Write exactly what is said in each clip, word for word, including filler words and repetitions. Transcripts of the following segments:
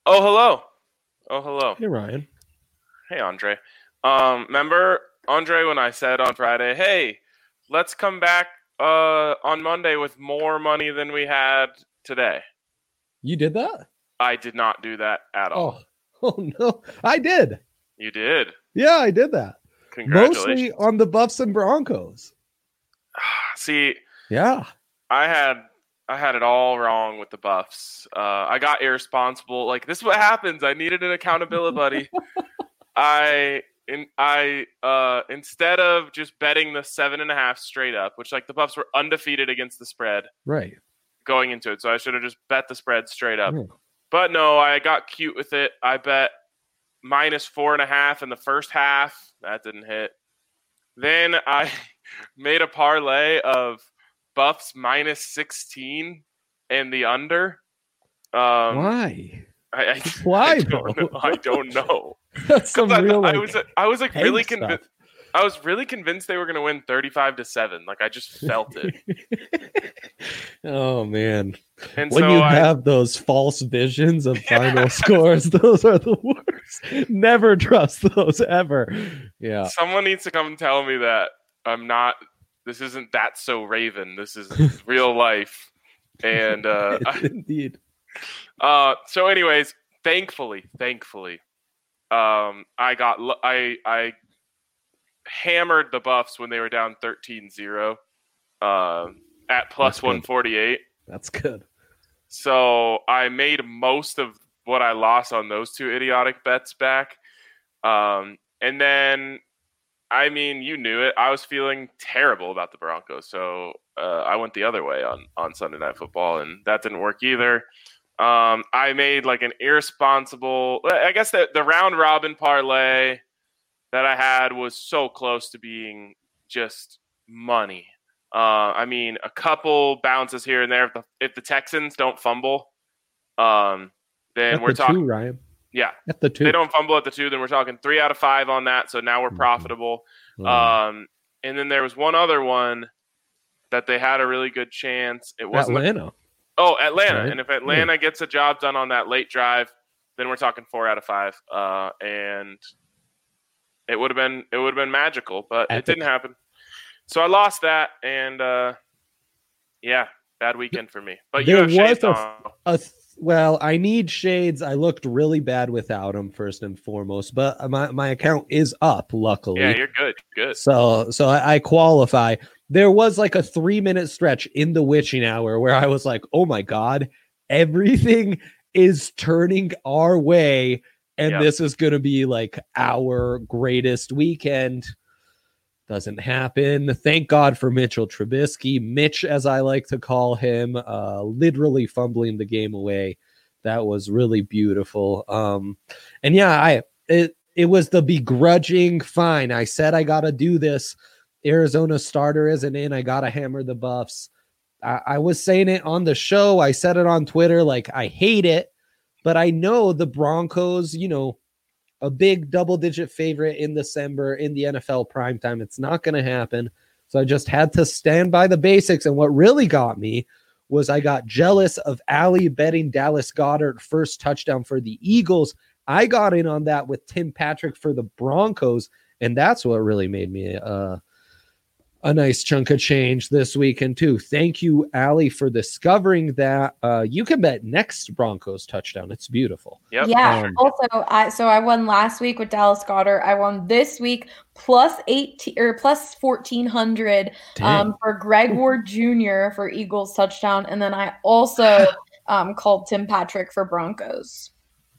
Oh, hello. Oh, hello. Hey, Ryan. Hey, Andre. Um, remember, Andre, when I said on Friday, hey, let's come back uh, on Monday with more money than we had today? You did that? I did not do that at all. Oh, oh no. I did. You did? Yeah, I did that. Congratulations. Mostly on the Buffs and Broncos. See, Yeah. I had I had it all wrong with the Buffs. Uh, I got irresponsible. Like, this is what happens. I needed an accountability buddy. I in I uh instead of just betting the seven and a half straight up, which like the Buffs were undefeated against the spread Right. going into it, so I should have just bet the spread straight up. Yeah. But no, I got cute with it. I bet minus four and a half in the first half. That didn't hit. Then I made a parlay of Buffs minus sixteen and the under. Um, Why? I, I, Why, I don't know. I don't know. That's some I, real. I like, was I was like peg really stuff. convinced. I was really convinced they were going to win thirty-five to seven. Like, I just felt it. Oh man! And when so you I, have those false visions of final scores, those are the worst. Never trust those ever. Yeah. someone needs to come and tell me that I'm not. This isn't that so Raven. This is real life. And uh, indeed. uh, so, anyways, thankfully, thankfully, um, I got I I hammered the Buffs when they were down thirteen zero uh, at plus one forty-eight. That's good. So I made most of what I lost on those two idiotic bets back. Um, and then, I mean, you knew it. I was feeling terrible about the Broncos. So uh, I went the other way on, on Sunday Night Football, and that didn't work either. Um, I made like an irresponsible, I guess the, the round robin parlay that I had was so close to being just money. Uh, I mean, a couple bounces here and there. If the, if the Texans don't fumble, um, then At we're the talking. two, Ryan. Yeah, at the two. They don't fumble at the two, then we're talking three out of five on that. So now we're profitable. Mm-hmm. Um, and then there was one other one that they had a really good chance. It wasn't Atlanta. A, oh, Atlanta. Right. And if Atlanta yeah. gets a job done on that late drive, then we're talking four out of five. Uh, and it would have been it would have been magical, but Epic. It didn't happen. So I lost that, and uh, yeah, bad weekend for me. But there you have shades a, on. A th- well, I need shades. I looked really bad without them, first and foremost, but my, my account is up, luckily. Yeah, you're good. Good. So so I, I qualify. There was like a three minute stretch in the witching hour where I was like, oh my God, everything is turning our way. And Yep. this is going to be like our greatest weekend. Doesn't happen. Thank God for Mitchell Trubisky. Mitch, as I like to call him, uh, literally fumbling the game away. That was really beautiful. Um, and yeah, I it it was the begrudging fine. I said I got to do this. Arizona starter isn't in. I got to hammer the Buffs. I, I was saying it on the show. I said it on Twitter. Like, I hate it, but I know the Broncos, you know, a big double-digit favorite in December in the N F L primetime. It's not going to happen. So I just had to stand by the basics. And what really got me was I got jealous of Allie betting Dallas Goedert first touchdown for the Eagles. I got in on that with Tim Patrick for the Broncos, and that's what really made me uh, a nice chunk of change this weekend too. Thank you, Allie, for discovering that. Uh, you can bet next Broncos touchdown. It's beautiful. Yep. Yeah. Um, also, I so I won last week with Dallas Goedert. I won this week plus eighteen or plus fourteen hundred um, for Greg Ward Junior for Eagles touchdown, and then I also um, called Tim Patrick for Broncos.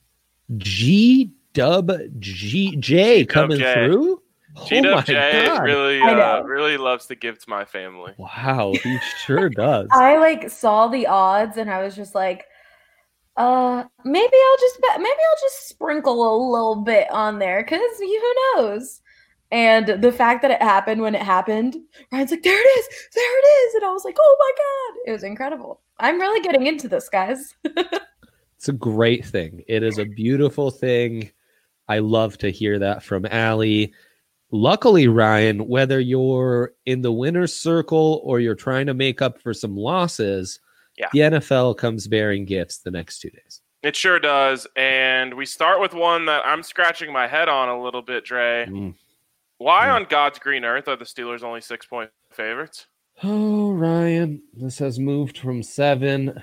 G Dub G J coming G-Dub J. through. G Oh my J God. really, I uh, know. really loves to give to my family. Wow, he sure does. I like saw the odds and I was just like, uh, maybe I'll just bet, maybe I'll just sprinkle a little bit on there because who knows. And the fact that it happened when it happened, Ryan's like, there it is, there it is, and I was like, oh my God, it was incredible. I'm really getting into this, guys. It's a great thing. It is a beautiful thing. I love to hear that from Allie. Luckily, Ryan, whether you're in the winner's circle or you're trying to make up for some losses, Yeah. the N F L comes bearing gifts the next two days. It sure does. And we start with one that I'm scratching my head on a little bit, Dre. Mm. Why Yeah. on God's green earth are the Steelers only six-point favorites? Oh, Ryan, this has moved from seven.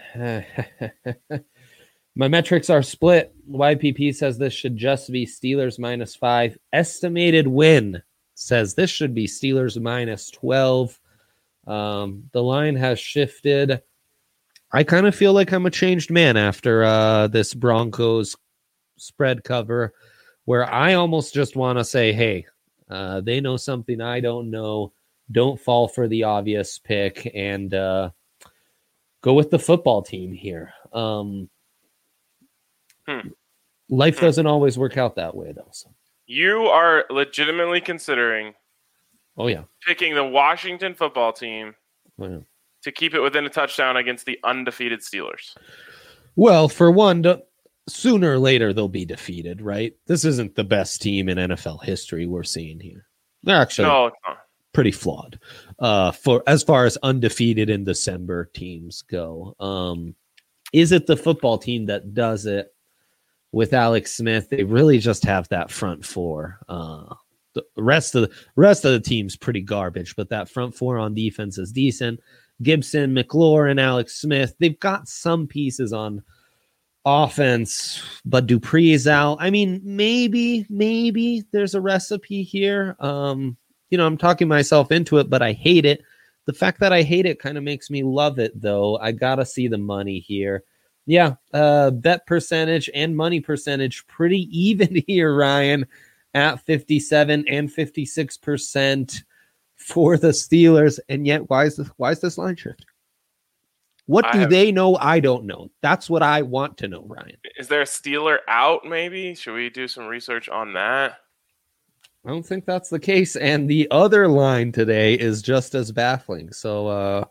My metrics are split. Y P P says this should just be Steelers minus five. Estimated win says this should be Steelers minus twelve. Um, the line has shifted. I kind of feel like I'm a changed man after uh, this Broncos spread cover, where I almost just want to say, hey, uh, they know something I don't know. Don't fall for the obvious pick and uh, go with the football team here. Um, Hmm. Life Hmm. doesn't always work out that way, though. So. You are legitimately considering Oh, yeah. picking the Washington football team Oh, yeah. to keep it within a touchdown against the undefeated Steelers. Well, for one, d- sooner or later they'll be defeated, right? This isn't the best team in N F L history we're seeing here. They're actually No, it's not. pretty flawed uh, for as far as undefeated in December teams go. Um, is it the football team that does it with Alex Smith? They really just have that front four. Uh, the rest of the rest of the team's pretty garbage, but that front four on defense is decent. Gibson, McLaurin, Alex Smith, they've got some pieces on offense, but Dupree's out. I mean, maybe, maybe there's a recipe here. Um, you know, I'm talking myself into it, but I hate it. The fact that I hate it kind of makes me love it, though. I gotta see the money here. Yeah, uh, bet percentage and money percentage pretty even here, Ryan, at fifty-seven and fifty-six percent for the Steelers. And yet, why is this, why is this line shift? What I do have- they know? I don't know. That's what I want to know, Ryan. Is there a Steeler out, maybe? Should we do some research on that? I don't think that's the case. And the other line today is just as baffling. So, uh,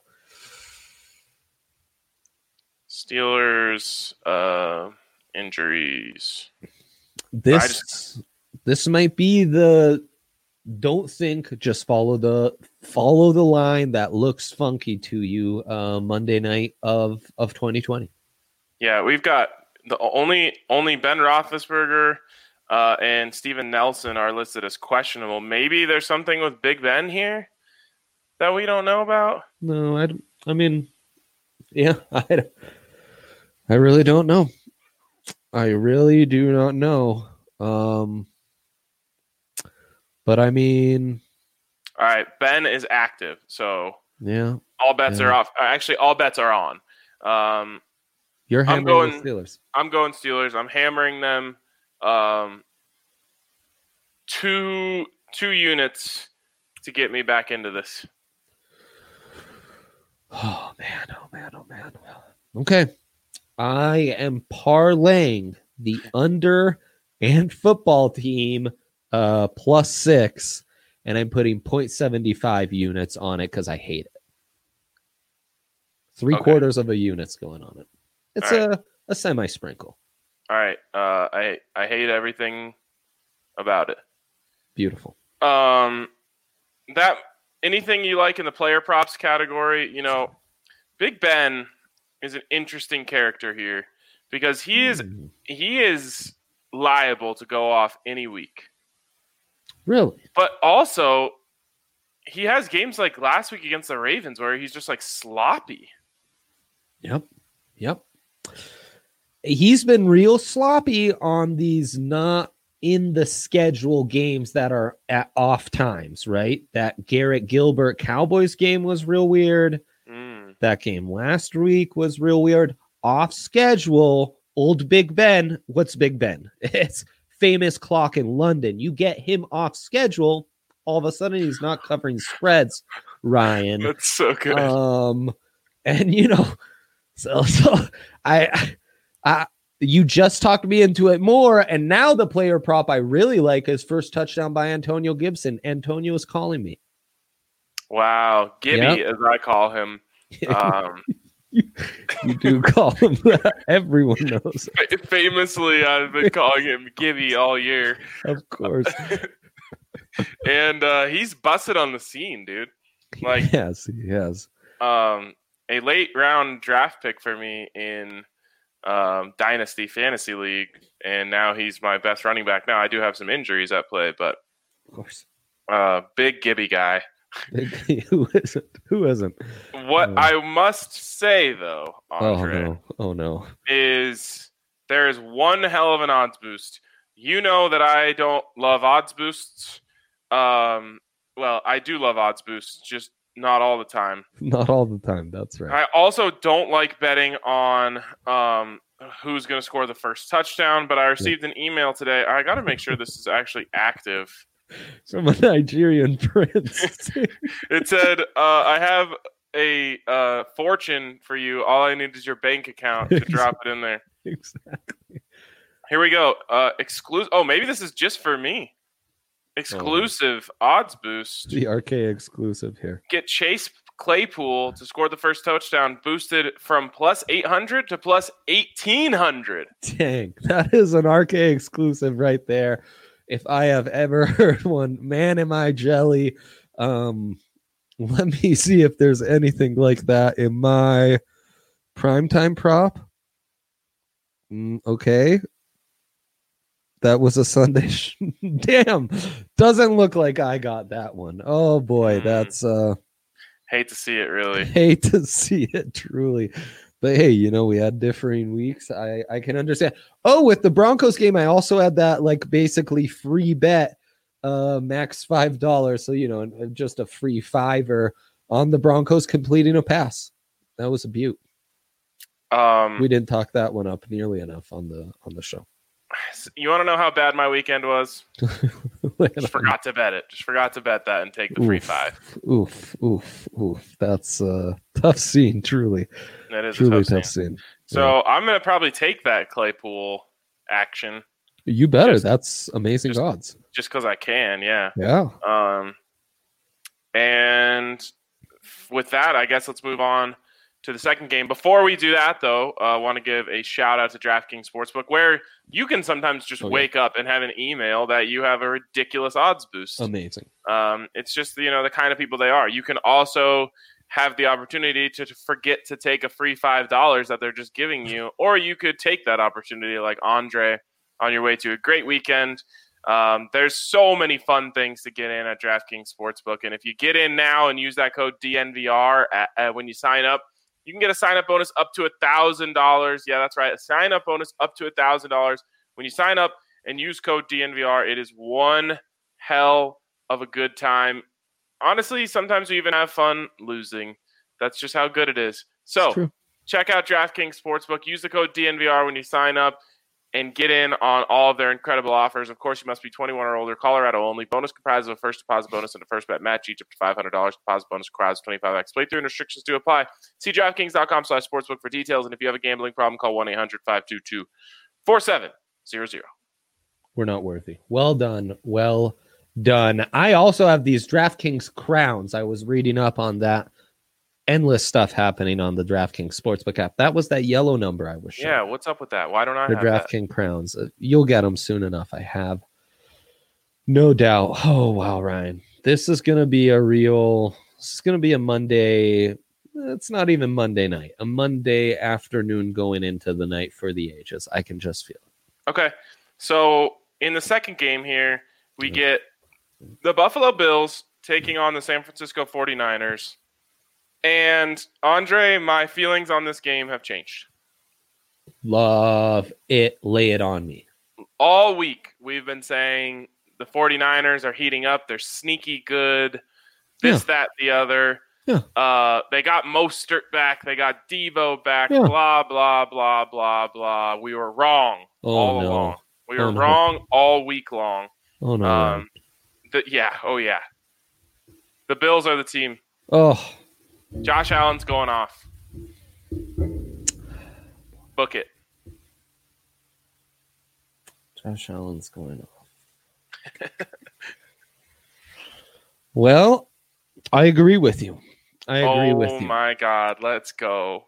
Steelers uh, injuries. this I just- this might be the don't think, just follow the follow the line that looks funky to you uh, Monday night of of twenty twenty. Yeah, we've got the only only Ben Roethlisberger uh, and Steven Nelson are listed as questionable. Maybe there's something with Big Ben here that we don't know about. No, I, don't- I mean, yeah, I, don't- I really don't know. I really do not know. Um, but I mean, All right, Ben is active, so yeah, all bets Yeah. are off. Uh, Actually, all bets are on. Um, you're I'm hammering going- the Steelers. I'm going Steelers. I'm hammering them. Um, two two units to get me back into this. Oh man, oh man, oh man. Okay. I am parlaying the under and football team uh plus six, and I'm putting point seven five units on it because I hate it. Three Okay. quarters of a unit's going on it. It's All a, a semi sprinkle. All right. Uh, I I hate everything about it. Beautiful. Um, that anything you like in the player props category, you know, Big Ben is an interesting character here because he is Hmm. he is liable to go off any week. Really? But also, he has games like last week against the Ravens where he's just like sloppy. Yep. Yep. He's been real sloppy on these not in the schedule games that are at off times, right? That Garrett Gilbert Cowboys game was real weird. Mm. That game last week was real weird. Off schedule, old Big Ben. What's Big Ben? It's famous clock in London. You get him off schedule, all of a sudden he's not covering spreads, Ryan. That's so good. Um, and you know, so so I, I, you just talked me into it more, and now the player prop I really like is first touchdown by Antonio Gibson. Antonio is calling me. Wow, Gibby, Yep. as I call him. Um, You do call him that. Everyone knows, famously, I've been calling him Gibby all year, of course. and uh, he's busted on the scene, dude. Like, yes, he has. um, a late round draft pick for me in um, Dynasty Fantasy League, and now he's my best running back. Now I do have some injuries at play, but Of course. uh, big Gibby guy. Who isn't? Who isn't? What Uh, I must say, though, Andre, Oh no! Oh no! is there is one hell of an odds boost. You know that I don't love odds boosts. Um, well, I do love odds boosts, just not all the time. Not all the time. That's right. I also don't like betting on um, who's going to score the first touchdown, but I received an email today. I got to make sure this is actually active. From a Nigerian prince. It said, uh, I have a uh, fortune for you. All I need is your bank account to drop it in there. Exactly. Here we go. Uh, exclusive. Oh, maybe this is just for me. Exclusive oh. odds boost. The R K exclusive here. Get Chase Claypool to score the first touchdown boosted from plus eight hundred to plus eighteen hundred. Dang, that is an R K exclusive right there. If I have ever heard one, man, am I jelly. Um, let me see if there's anything like that in my primetime prop. Mm, okay. That was a Sunday. Sh- Damn. Doesn't look like I got that one. Oh boy, mm. that's uh hate to see it, really. Hate to see it, truly. But hey, you know, we had differing weeks. I, I can understand. Oh, with the Broncos game, I also had that like basically free bet, uh, max five dollars. So, you know, just a free fiver on the Broncos completing a pass. That was a beaut. Um, we didn't talk that one up nearly enough on the on the show. You want to know how bad my weekend was? Just forgot to bet it. Just forgot to bet that and take the free oof, five. Oof, oof, oof. That's a tough scene, truly. That is truly a tough, tough scene. scene. So yeah. I'm going to probably take that Claypool action. You better. Just, That's amazing just, odds. Just because I can, yeah. Yeah. Um, and with that, I guess let's move on to the second game. Before we do that, though, I uh, want to give a shout out to DraftKings Sportsbook, where you can sometimes just oh, wake yeah. up and have an email that you have a ridiculous odds boost. Amazing. Um, it's just, you know, the kind of people they are. You can also have the opportunity to, to forget to take a free five dollars that they're just giving you, or you could take that opportunity like Andre on your way to a great weekend. Um, there's so many fun things to get in at DraftKings Sportsbook, and if you get in now and use that code D N V R at, at, when you sign up, you can get a sign-up bonus up to one thousand dollars. Yeah, that's right. A sign-up bonus up to one thousand dollars. When you sign up and use code D N V R, it is one hell of a good time. Honestly, sometimes we even have fun losing. That's just how good it is. So check out DraftKings Sportsbook. Use the code D N V R when you sign up and get in on all of their incredible offers. Of course, you must be twenty-one or older. Colorado only. Bonus comprises of a first deposit bonus and a first bet match, each up to five hundred dollars. Deposit bonus requires twenty-five x playthrough and restrictions do apply. See DraftKings.com slash sportsbook for details. And if you have a gambling problem, call one eight hundred five two two four seven zero zero. We're not worthy. Well done. Well done. I also have these DraftKings crowns. I was reading up on that. Endless stuff happening on the DraftKings Sportsbook app. That was that yellow number I was showing. Yeah, what's up with that? Why don't I the have DraftKings crowns? Uh, you'll get them soon enough. I have no doubt. Oh wow, Ryan, this is gonna be a real. This is gonna be a Monday. It's not even Monday night. A Monday afternoon going into the night for the ages. I can just feel it. Okay, so in the second game here, we mm-hmm. get the Buffalo Bills taking on the San Francisco forty-niners. And, Andre, my feelings on this game have changed. Love it. Lay it on me. All week, we've been saying the forty-niners are heating up. They're sneaky good. This, yeah. that, the other. Yeah. Uh, they got Mostert back. They got Devo back. Yeah. Blah, blah, blah, blah, blah. We were wrong oh, all no. along. We were oh, no. wrong all week long. Oh, no. Um, the, yeah. Oh, yeah. The Bills are the team. Oh, Josh Allen's going off. Book it. Josh Allen's going off. Well, I agree with you. I agree oh, with you. Oh, my God. Let's go.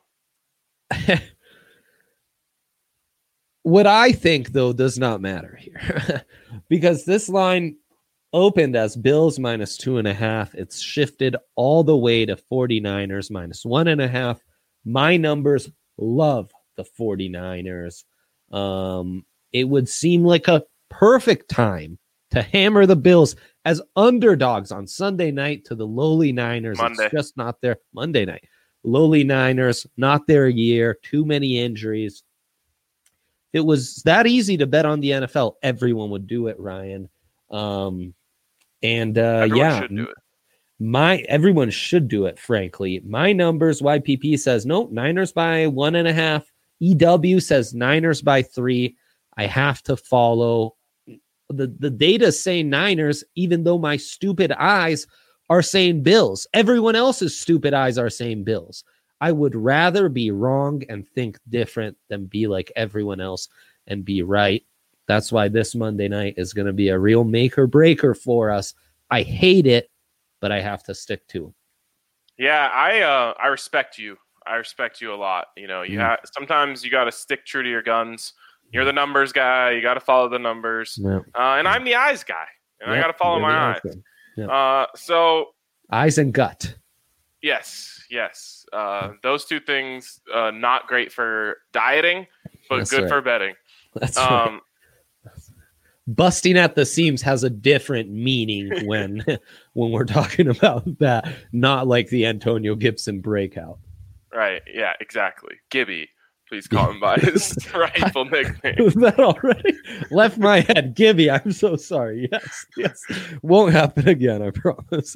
What I think, though, does not matter here. Because this line opened as Bills minus two and a half. It's shifted all the way to forty-niners minus one and a half. My numbers love the 49ers. Um, it would seem like a perfect time to hammer the Bills as underdogs on Sunday night to the lowly Niners. Monday. It's just not their Monday night. Lowly Niners, not their year, too many injuries. It was that easy to bet on the N F L. Everyone would do it, Ryan. Um, and uh, Everyone yeah, should do it. my everyone should do it. Frankly, my numbers. Y P P says no. Niners by one and a half. E W says Niners by three. I have to follow the the data saying Niners, even though my stupid eyes are saying Bills. Everyone else's stupid eyes are saying Bills. I would rather be wrong and think different than be like everyone else and be right. That's why this Monday night is going to be a real make or breaker for us. I hate it, but I have to stick to it. Yeah, I uh, I respect you. I respect you a lot. You know, you Mm. ha- sometimes you got to stick true to your guns. You're the numbers guy. You got to follow the numbers. Yeah. Uh, and I'm the eyes guy, and I Yep, got to follow you're my the eyes. outcome. Yep. Uh, so Eyes and gut. yes, yes, uh, those two things uh, not great for dieting, but That's good right. for betting. That's right. Um, Busting at the seams has a different meaning when when we're talking about that, not like the Antonio Gibson breakout. right? Yeah, exactly. Gibby, please call him by his rightful nickname. Was that already left my head? Gibby, I'm so sorry. Yes, yes. Won't happen again, I promise.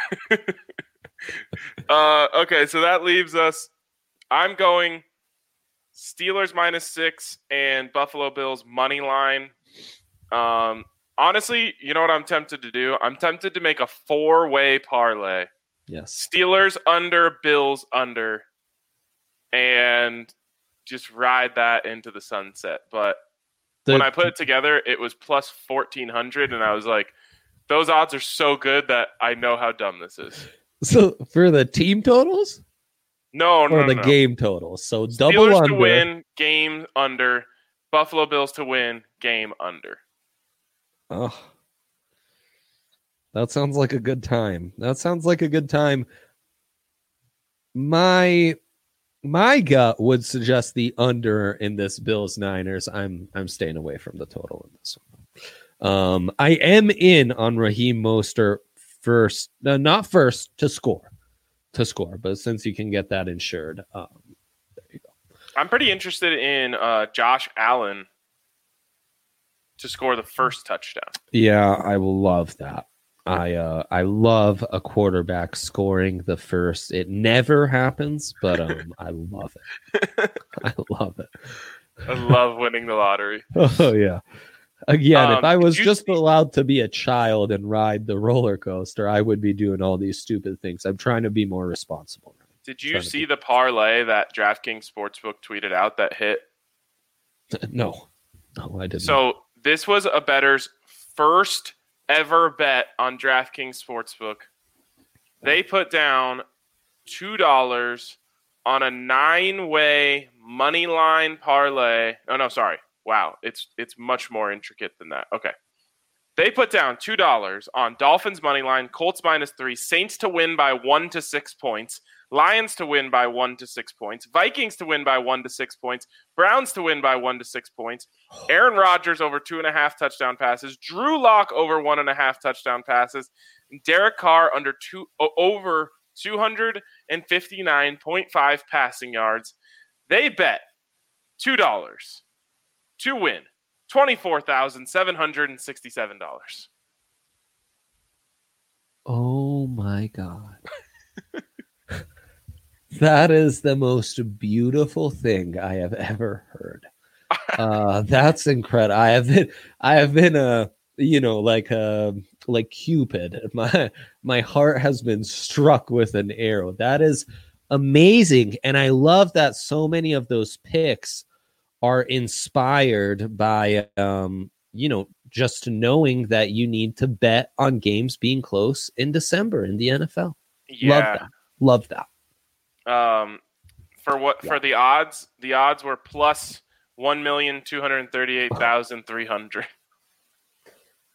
Uh, okay, so that leaves us. I'm going Steelers minus six and Buffalo Bills money line. Um, honestly, you know what I'm tempted to do? I'm tempted to make a four-way parlay. Yes. Steelers under, Bills under, and just ride that into the sunset. But The- when I put it together, it was plus fourteen hundred, and I was like, those odds are so good that I know how dumb this is. so for the team totals No, or no, no, the no. game totals? So double Steelers under. to win, game under. Buffalo Bills to win, game under. Oh, that sounds like a good time. That sounds like a good time. My my gut would suggest the under in this Bills Niners. I'm I'm staying away from the total in this one. Um, I am in on Raheem Mostert first, no, not first to score, to score. But since you can get that insured, um, there you go. I'm pretty interested in uh, Josh Allen to score the first touchdown. Yeah, I will love that. I uh I love a quarterback scoring the first. It never happens, but um I love it. I love it. I love winning the lottery. Oh yeah. Again, if Um, I was did you just see- allowed to be a child and ride the roller coaster, I would be doing all these stupid things. I'm trying to be more responsible. Did you Trying to see be- the parlay that DraftKings Sportsbook tweeted out that hit? No. No, I didn't. So this was a bettor's first ever bet on DraftKings Sportsbook. They put down two dollars on a nine-way money line parlay. Oh no, sorry. Wow, it's it's much more intricate than that. Okay. They put down two dollars on Dolphins money line, Colts minus three, Saints to win by one to six points, Lions to win by one to six points, Vikings to win by one to six points, Browns to win by one to six points, Aaron Rodgers over two and a half touchdown passes, Drew Lock over one and a half touchdown passes, and Derek Carr under two o- over two hundred fifty-nine point five passing yards. They bet two dollars to win twenty-four thousand seven hundred sixty-seven dollars. Oh my God. That is the most beautiful thing I have ever heard. Uh, that's incredible. I have been, I have been a, you know, like a, like Cupid. My, my heart has been struck with an arrow. That is amazing. And I love that so many of those picks are inspired by, um, you know, just knowing that you need to bet on games being close in December in the N F L. Yeah. Love that. Love that. Um, for what Yeah. for the odds? The odds were plus one million two hundred thirty-eight thousand three hundred.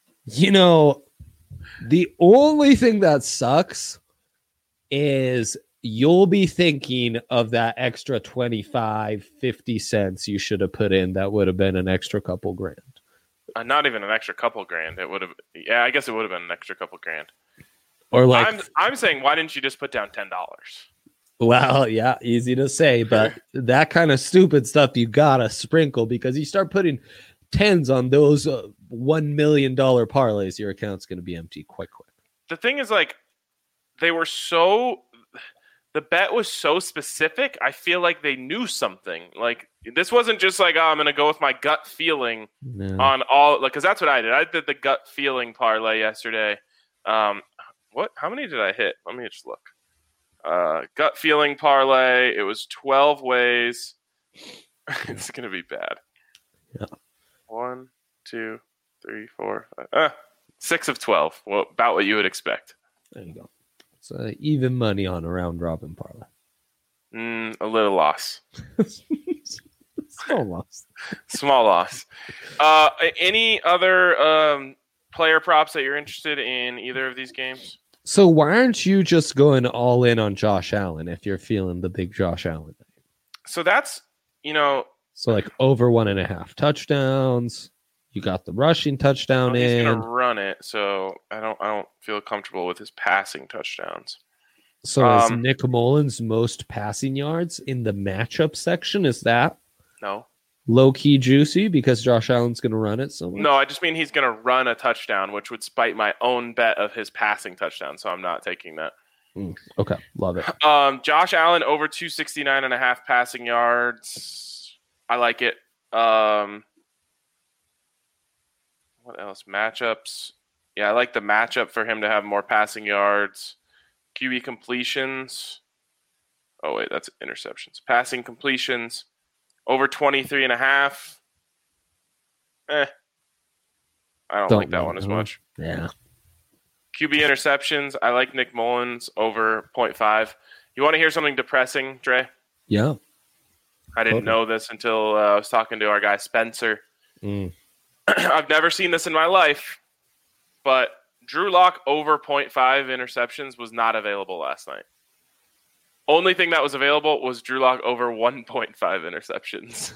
You know, the only thing that sucks is you'll be thinking of that extra twenty-five, fifty cents you should have put in. That would have been an extra couple grand. Uh, not even an extra couple grand. It would have. Yeah, I guess it would have been an extra couple grand. Or like, I'm, I'm saying, why didn't you just put down ten dollars? Well, yeah, easy to say, but that kind of stupid stuff you gotta sprinkle, because you start putting tens on those uh, one million dollar parlays, your account's gonna be empty quite quick. The thing is, like, they were so. The bet was so specific. I feel like they knew something. Like, this wasn't just like, oh, I'm gonna go with my gut feeling No. on all, like, because that's what I did. I did the gut feeling parlay yesterday. Um, what? How many did I hit? Let me just look. Uh, gut feeling parlay. It was twelve ways. It's gonna be bad. Yeah. One, two, three, four, five. Ah, six of twelve. Well, about what you would expect. There you go. It's uh, even money on a round robin parlay. Mm, a little loss. Small loss. Small loss. Uh, any other um, player props that you're interested in either of these games? So why aren't you just going all in on Josh Allen if you're feeling the big Josh Allen? So that's, you know. So like over one and a half touchdowns. You got the rushing touchdown well, he's in. He's gonna run it, so I don't. I don't feel comfortable with his passing touchdowns. So um, is Nick Mullins most passing yards in the matchup section? Is that no low key juicy because Josh Allen's gonna run it so much? No, I just mean he's gonna run a touchdown, which would spite my own bet of his passing touchdown. So I'm not taking that. Mm, okay, love it. Um, Josh Allen over two sixty-nine and a half passing yards. I like it. Um. What else? Matchups. Yeah, I like the matchup for him to have more passing yards. Q B completions. Oh, wait, that's interceptions. Passing completions. Over twenty-three and a half. Eh. I don't, don't like that one as much. Yeah. Q B interceptions. I like Nick Mullins over point five. You want to hear something depressing, Dre? Yeah. I didn't totally. know this until uh, I was talking to our guy Spencer. Mm. I've never seen this in my life, but Drew Lock over point five interceptions was not available last night. Only thing that was available was Drew Lock over one point five interceptions.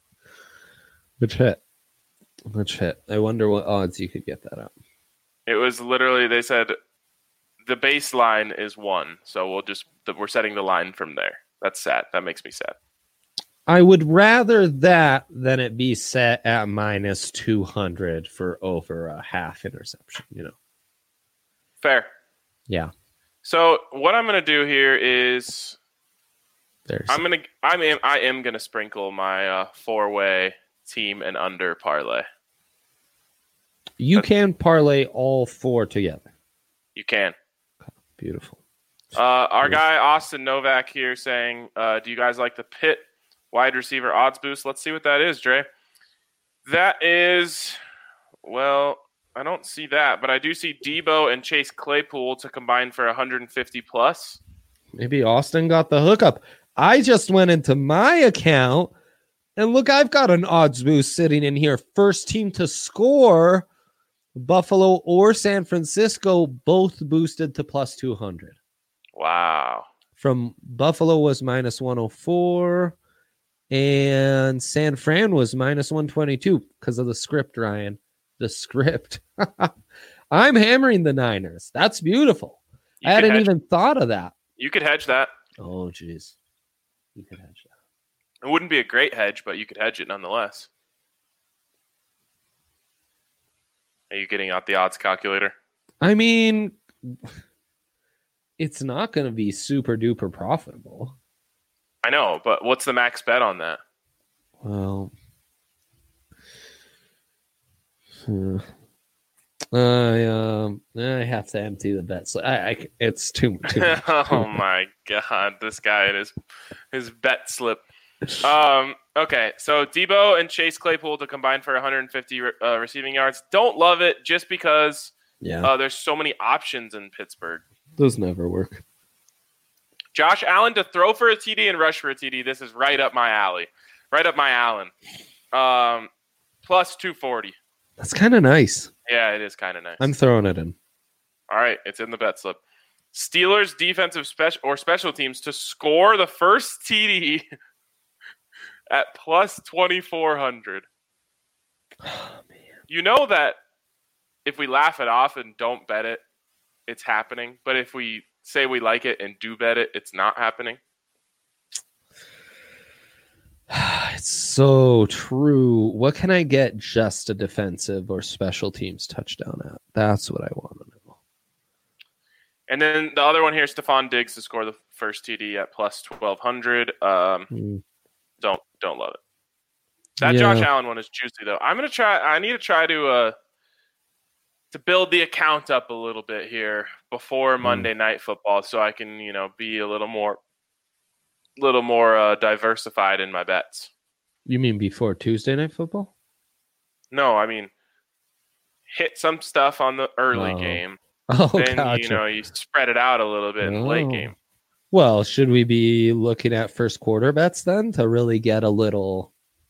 Which hit? Which hit? I wonder what odds you could get that up. It was literally, they said the baseline is one, so we'll just we're setting the line from there. That's sad. That makes me sad. I would rather that than it be set at minus two hundred for over a half interception, you know. Fair. Yeah. So what I'm going to do here is There's I'm going to I am I am going to sprinkle my uh, four-way team and under parlay. You That's, can parlay all four together. You can. Okay. Beautiful. Uh, our guy Austin Novak here saying, uh, do you guys like the Pitt wide receiver odds boost? Let's see what that is, Dre. That is, well, I don't see that, but I do see Debo and Chase Claypool to combine for one hundred fifty plus. Maybe Austin got the hookup. I just went into my account and look, I've got an odds boost sitting in here. First team to score, Buffalo or San Francisco, both boosted to plus two hundred. Wow. From Buffalo was minus one oh four. And San Fran was minus one twenty-two because of the script, Ryan. The script. I'm hammering the Niners. That's beautiful. You I hadn't hedge. even thought of that. You could hedge that. Oh, jeez. You could hedge that. It wouldn't be a great hedge, but you could hedge it nonetheless. Are you getting out the odds calculator? I mean, it's not going to be super duper profitable. I know, but what's the max bet on that? Well, hmm. I um, I have to empty the bet. So I, I it's too too much. Oh my god, this guy and his his bet slip. Um. Okay, so Debo and Chase Claypool to combine for one hundred fifty uh, receiving yards. Don't love it just because yeah, uh, there's so many options in Pittsburgh. Those never work. Josh Allen to throw for a T D and rush for a T D. This is right up my alley. Right up my Allen. Um, plus two forty. That's kind of nice. Yeah, it is kind of nice. I'm throwing it in. All right, it's in the bet slip. Steelers defensive special or special teams to score the first T D at plus twenty-four hundred. Oh, man. You know that if we laugh it off and don't bet it, it's happening. But if we say we like it and do bet it, it's not happening. It's so true. What can I get just a defensive or special teams touchdown at? That's what I want to know. And then the other one here, Stephon Diggs to score the first T D at plus twelve hundred. Um, Mm. Don't don't love it. That Yeah. Josh Allen one is juicy though. I'm gonna try. I need to try to uh to build the account up a little bit here before Monday Night Football, so I can you know be a little more, little more uh, diversified in my bets. You mean before Tuesday Night Football? No, I mean hit some stuff on the early Oh. game. Oh, Then gotcha. you know you spread it out a little bit in the late Oh. game. Well, should we be looking at first quarter bets then to really get a little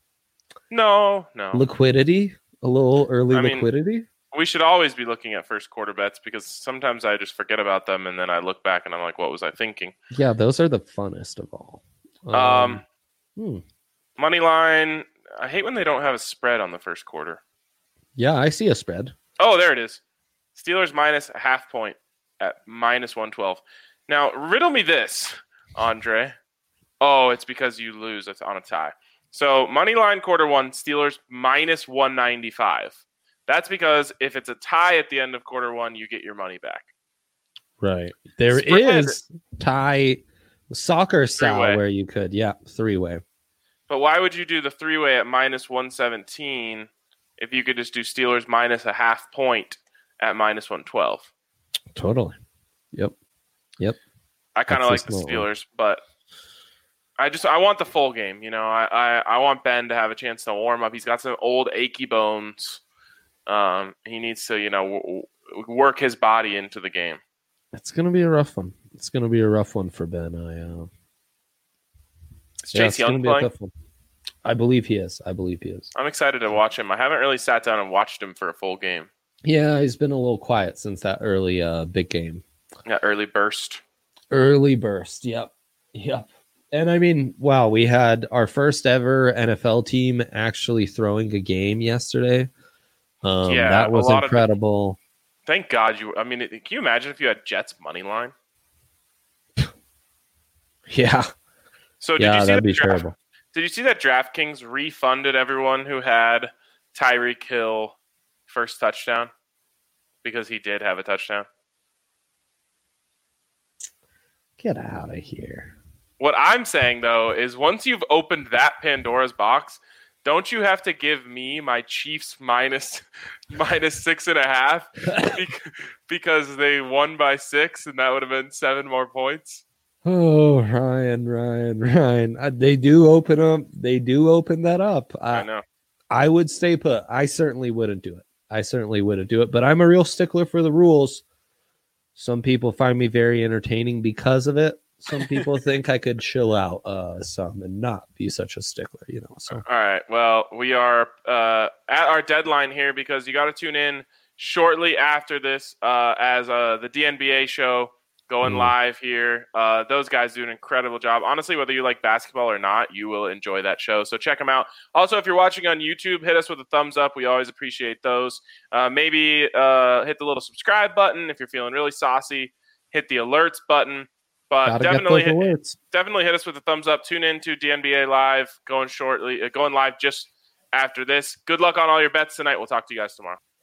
No, no. liquidity, a little early I mean, liquidity? We should always be looking at first quarter bets because sometimes I just forget about them and then I look back and I'm like, what was I thinking? Yeah, those are the funnest of all. Um, hmm. Money line. I hate when they don't have a spread on the first quarter. Yeah, I see a spread. Oh, there it is. Steelers minus a half point at minus one twelve. Now, riddle me this, Andre. Oh, it's because you lose. It's on a tie. So, money line quarter one, Steelers minus one ninety-five. That's because if it's a tie at the end of quarter one, you get your money back. Right. There Spread. is tie soccer style Three-way. where you could, yeah, three way. But why would you do the three-way at minus one seventeen if you could just do Steelers minus a half point at minus one twelve? Totally. Yep. Yep. I kind of That's like the the smart one. Steelers, but I just I want the full game. You know, I, I, I want Ben to have a chance to warm up. He's got some old achy bones. Um, he needs to, you know, w- w- work his body into the game. It's gonna be a rough one. It's gonna be a rough one for Ben. I uh Is yeah, Chase it's gonna Young be a playing? tough one. I believe he is. I believe he is. I'm excited to watch him. I haven't really sat down and watched him for a full game. Yeah, he's been a little quiet since that early uh big game. That early burst. Early burst. Yep. Yep. And I mean, wow, we had our first ever N F L team actually throwing a game yesterday. Um, Yeah, that was a lot of the- incredible. Thank God you. I mean, it- can you imagine if you had Jets money line? Yeah. So did Yeah, you see that'd that be draft- terrible. Did you see that DraftKings refunded everyone who had Tyreek Hill first touchdown because he did have a touchdown? Get out of here. What I'm saying though is once you've opened that Pandora's box, don't you have to give me my Chiefs minus minus six and a half bec- because they won by six and that would have been seven more points? Oh, Ryan, Ryan, Ryan. Uh, they do open up. They do open that up. I I, know. I would stay put. I certainly wouldn't do it. I certainly wouldn't do it. But I'm a real stickler for the rules. Some people find me very entertaining because of it. Some people think I could chill out uh, some and not be such a stickler, you know. So All right. Well, we are uh, at our deadline here because you got to tune in shortly after this uh, as uh, the D N B A show going Mm. live here. Uh, those guys do an incredible job. Honestly, whether you like basketball or not, you will enjoy that show. So check them out. Also, if you're watching on YouTube, hit us with a thumbs up. We always appreciate those. Uh, maybe uh, hit the little subscribe button if you're feeling really saucy. Hit the alerts button. But gotta definitely get those hit, alerts. definitely hit us with a thumbs up. Tune in to D N B A Live going shortly, uh, going live just after this. Good luck on all your bets tonight. We'll talk to you guys tomorrow.